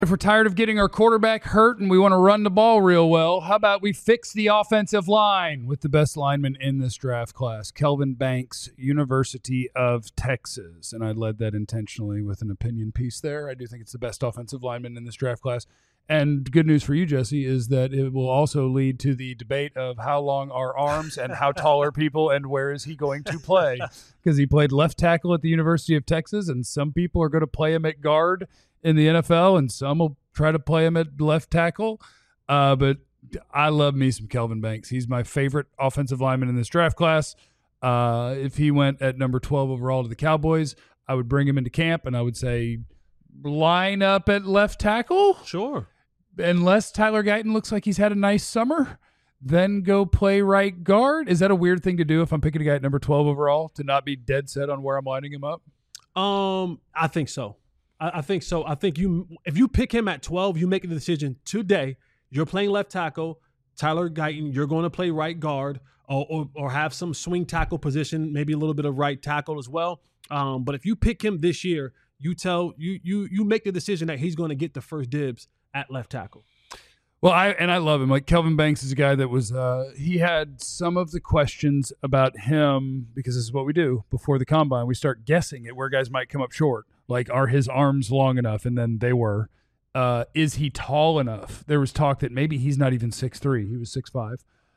If we're tired of getting our quarterback hurt and we want to run the ball real well, how about we fix the offensive line with the best lineman in this draft class, Kelvin Banks, University of Texas. And I led that intentionally with an opinion piece there. I do think it's the best offensive lineman in this draft class. And good news for you, Jesse, is that it will also lead to the debate of how long are arms and how tall are people and where is he going to play. Because he played left tackle at the University of Texas, and some people are going to play him at guard in the NFL, and some will try to play him at left tackle. But I love me some Kelvin Banks. He's my favorite offensive lineman in this draft class. If he went at number 12 overall to the Cowboys, I would bring him into camp, and I would say line up at left tackle. Sure. Unless Tyler Guyton looks like he's had a nice summer, then go play right guard. Is that a weird thing to do if I'm picking a guy at number 12 overall, to not be dead set on where I'm lining him up? I think so. I think so. I think if you pick him at 12, you make the decision today. You're playing left tackle. Tyler Guyton, you're going to play right guard or have some swing tackle position, maybe a little bit of right tackle as well. But if you pick him this year, you make the decision that he's going to get the first dibs at left tackle. Well, I love him. Like, Kelvin Banks is a guy that was he had some of the questions about him, because this is what we do before the combine. We start guessing at where guys might come up short. Like, are his arms long enough? And then they were. Is he tall enough? There was talk that maybe he's not even 6'3". He was 6'5".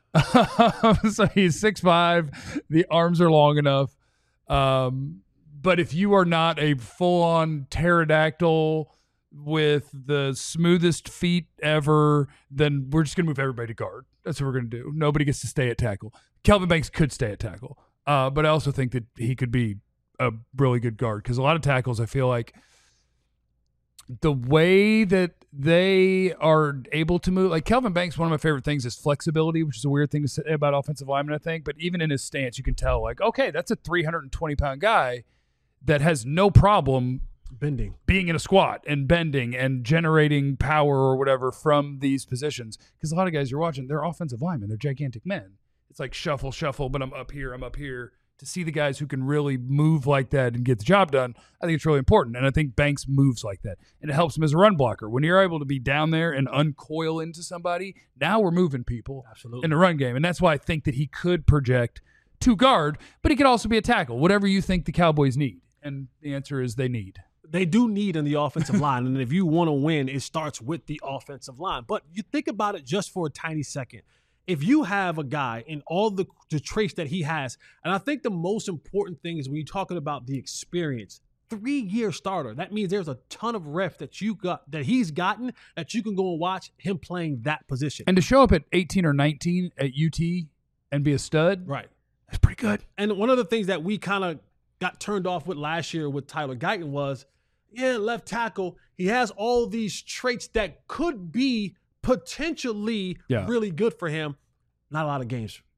So he's 6'5". The arms are long enough. But if you are not a full-on pterodactyl with the smoothest feet ever, then we're just going to move everybody to guard. That's what we're going to do. Nobody gets to stay at tackle. Kelvin Banks could stay at tackle. But I also think that he could be a really good guard, because a lot of tackles, I feel like the way that they are able to move, like Kelvin Banks, one of my favorite things is flexibility, which is a weird thing to say about offensive linemen, I think. But even in his stance, you can tell, like, okay, that's a 320-pound guy that has no problem being in a squat and bending and generating power or whatever from these positions. Because a lot of guys you're watching, they're offensive linemen. They're gigantic men. It's like shuffle, but I'm up here. To see the guys who can really move like that and get the job done, I think it's really important. And I think Banks moves like that. And it helps him as a run blocker. When you're able to be down there and uncoil into somebody, now we're moving people in the run game. And that's why I think that he could project to guard, but he could also be a tackle, whatever you think the Cowboys need. And the answer is they need. They do need in the offensive line. And if you want to win, it starts with the offensive line. But you think about it just for a tiny second. If you have a guy in all the traits that he has, and I think the most important thing is when you're talking about the experience, 3-year starter. That means there's a ton of reps that he's gotten that you can go and watch him playing that position. And to show up at 18 or 19 at UT and be a stud, right? That's pretty good. And one of the things that we kind of got turned off with last year with Tyler Guyton was, left tackle. He has all these traits that could be potentially really good for him. Not a lot of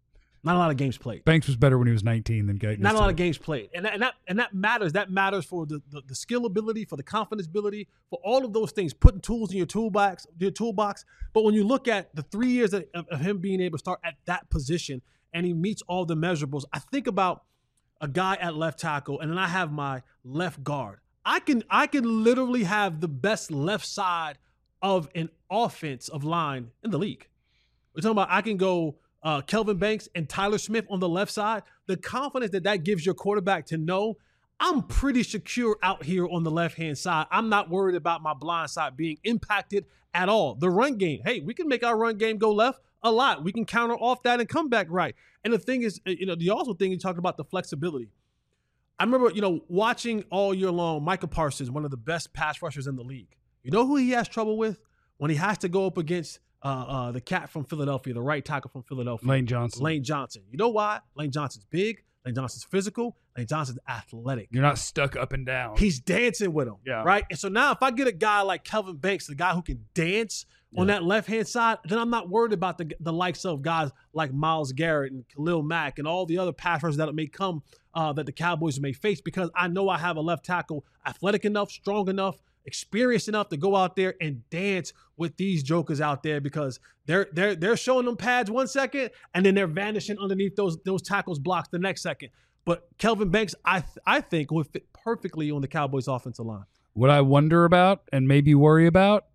games played. Banks was better when he was 19 than Guyton. Not a lot of games played. And that matters. That matters for the skill ability, for the confidence ability, for all of those things, putting tools in your toolbox. But when you look at the 3 years of him being able to start at that position and he meets all the measurables, I think about a guy at left tackle, and then I have my left guard. I can literally have the best left side of an offensive line in the league. We're talking about I can go Kelvin Banks and Tyler Smith on the left side. The confidence that gives your quarterback to know I'm pretty secure out here on the left-hand side. I'm not worried about my blind side being impacted at all. The run game, hey, we can make our run game go left a lot. We can counter off that and come back right. And the thing is, the also thing you talked about the flexibility. I remember, watching all year long, Micah Parsons, one of the best pass rushers in the league. You know who he has trouble with? When he has to go up against the cat from Philadelphia, the right tackle from Philadelphia. Lane Johnson. You know why? Lane Johnson's big. Lane Johnson's physical. Lane Johnson's athletic. You're not stuck up and down. He's dancing with him, right? And so now if I get a guy like Kelvin Banks, the guy who can dance on that left-hand side, then I'm not worried about the likes of guys like Myles Garrett and Khalil Mack and all the other pass rushers that may come that the Cowboys may face, because I know I have a left tackle athletic enough, strong enough, experienced enough to go out there and dance with these jokers out there, because they're showing them pads 1 second and then they're vanishing underneath those tackles blocks the next second. But Kelvin Banks, I think, would fit perfectly on the Cowboys offensive line. What I wonder about and maybe worry about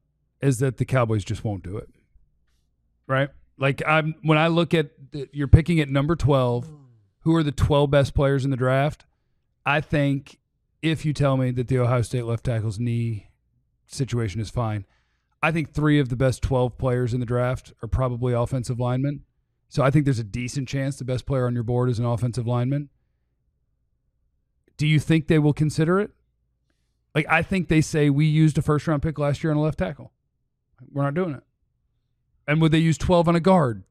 is that the Cowboys just won't do it. Right? Like when I look at you're picking at number 12, who are the 12 best players in the draft? I think if you tell me that the Ohio State left tackle's knee situation is fine, I think 3 of the best 12 players in the draft are probably offensive linemen. So I think there's a decent chance the best player on your board is an offensive lineman. Do you think they will consider it? Like, I think they say we used a first-round pick last year on a left tackle. We're not doing it. And would they use 12 on a guard?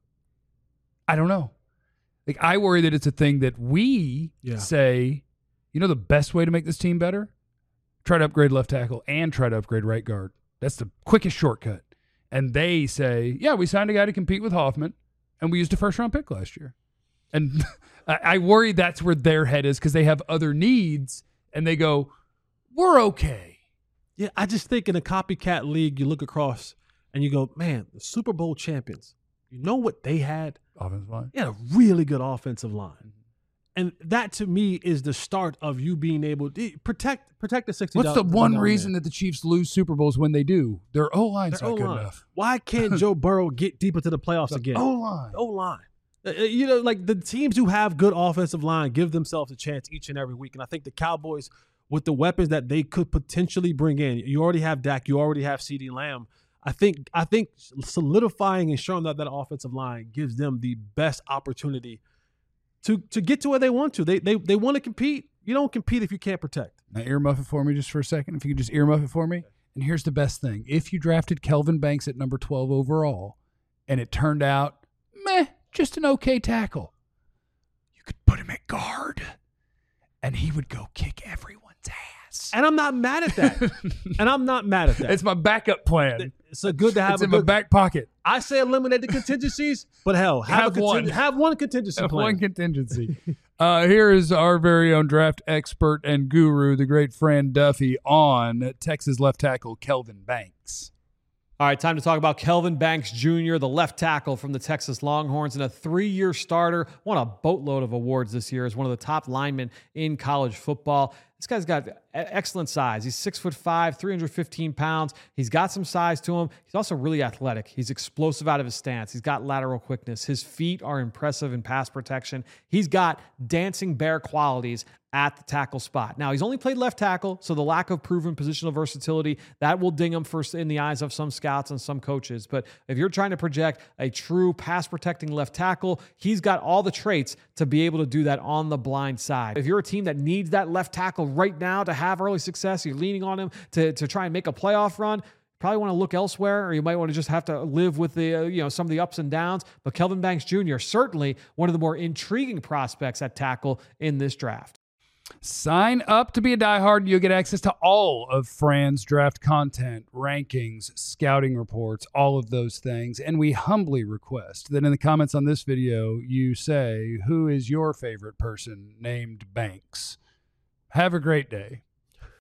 I don't know. Like, I worry that it's a thing that we say, you know, the best way to make this team better? Try to upgrade left tackle and try to upgrade right guard. That's the quickest shortcut. And they say, yeah, we signed a guy to compete with Hoffman, and we used a first-round pick last year. And I worry that's where their head is because they have other needs, and they go, we're okay. Yeah, I just think in a copycat league, you look across and you go, man, the Super Bowl champions, you know what they had? Offensive line. They had a really good offensive line. And that, to me, is the start of you being able to protect the $60. What's the one reason that the Chiefs lose Super Bowls when they do? Their O-line's not good enough. Why can't Joe Burrow get deep into the playoffs again? O-line. O-line. You know, like the teams who have good offensive line give themselves a chance each and every week. And I think the Cowboys, with the weapons that they could potentially bring in, you already have Dak, you already have CeeDee Lamb. I think solidifying and showing that offensive line gives them the best opportunity to get to where they want to. They want to compete. You don't compete if you can't protect. Now earmuff it for me just for a second. If you could just earmuff it for me. And here's the best thing. If you drafted Kelvin Banks at number 12 overall and it turned out, just an okay tackle, you could put him at guard and he would go kick everyone's ass. And I'm not mad at that. It's my backup plan. It's good to have. It's in my back pocket. I say eliminate the contingencies, but hell, have one contingency plan. One contingency. Here is our very own draft expert and guru, the great Fran Duffy, on Texas left tackle Kelvin Banks. All right, time to talk about Kelvin Banks Jr., the left tackle from the Texas Longhorns, and a 3-year starter. Won a boatload of awards this year as one of the top linemen in college football. This guy's got excellent size. He's 6'5", 315 pounds. He's got some size to him. He's also really athletic. He's explosive out of his stance. He's got lateral quickness. His feet are impressive in pass protection. He's got dancing bear qualities at the tackle spot. Now, he's only played left tackle, so the lack of proven positional versatility, that will ding him first in the eyes of some scouts and some coaches. But if you're trying to project a true pass-protecting left tackle, he's got all the traits to be able to do that on the blind side. If you're a team that needs that left tackle right now to have early success, you're leaning on him to try and make a playoff run, probably want to look elsewhere, or you might want to just have to live with the some of the ups and downs. But Kelvin Banks Jr., certainly one of the more intriguing prospects at tackle in this draft. Sign up to be a diehard and you'll get access to all of Fran's draft content, rankings, scouting reports, all of those things. And we humbly request that in the comments on this video, you say, who is your favorite person named Banks? Have a great day.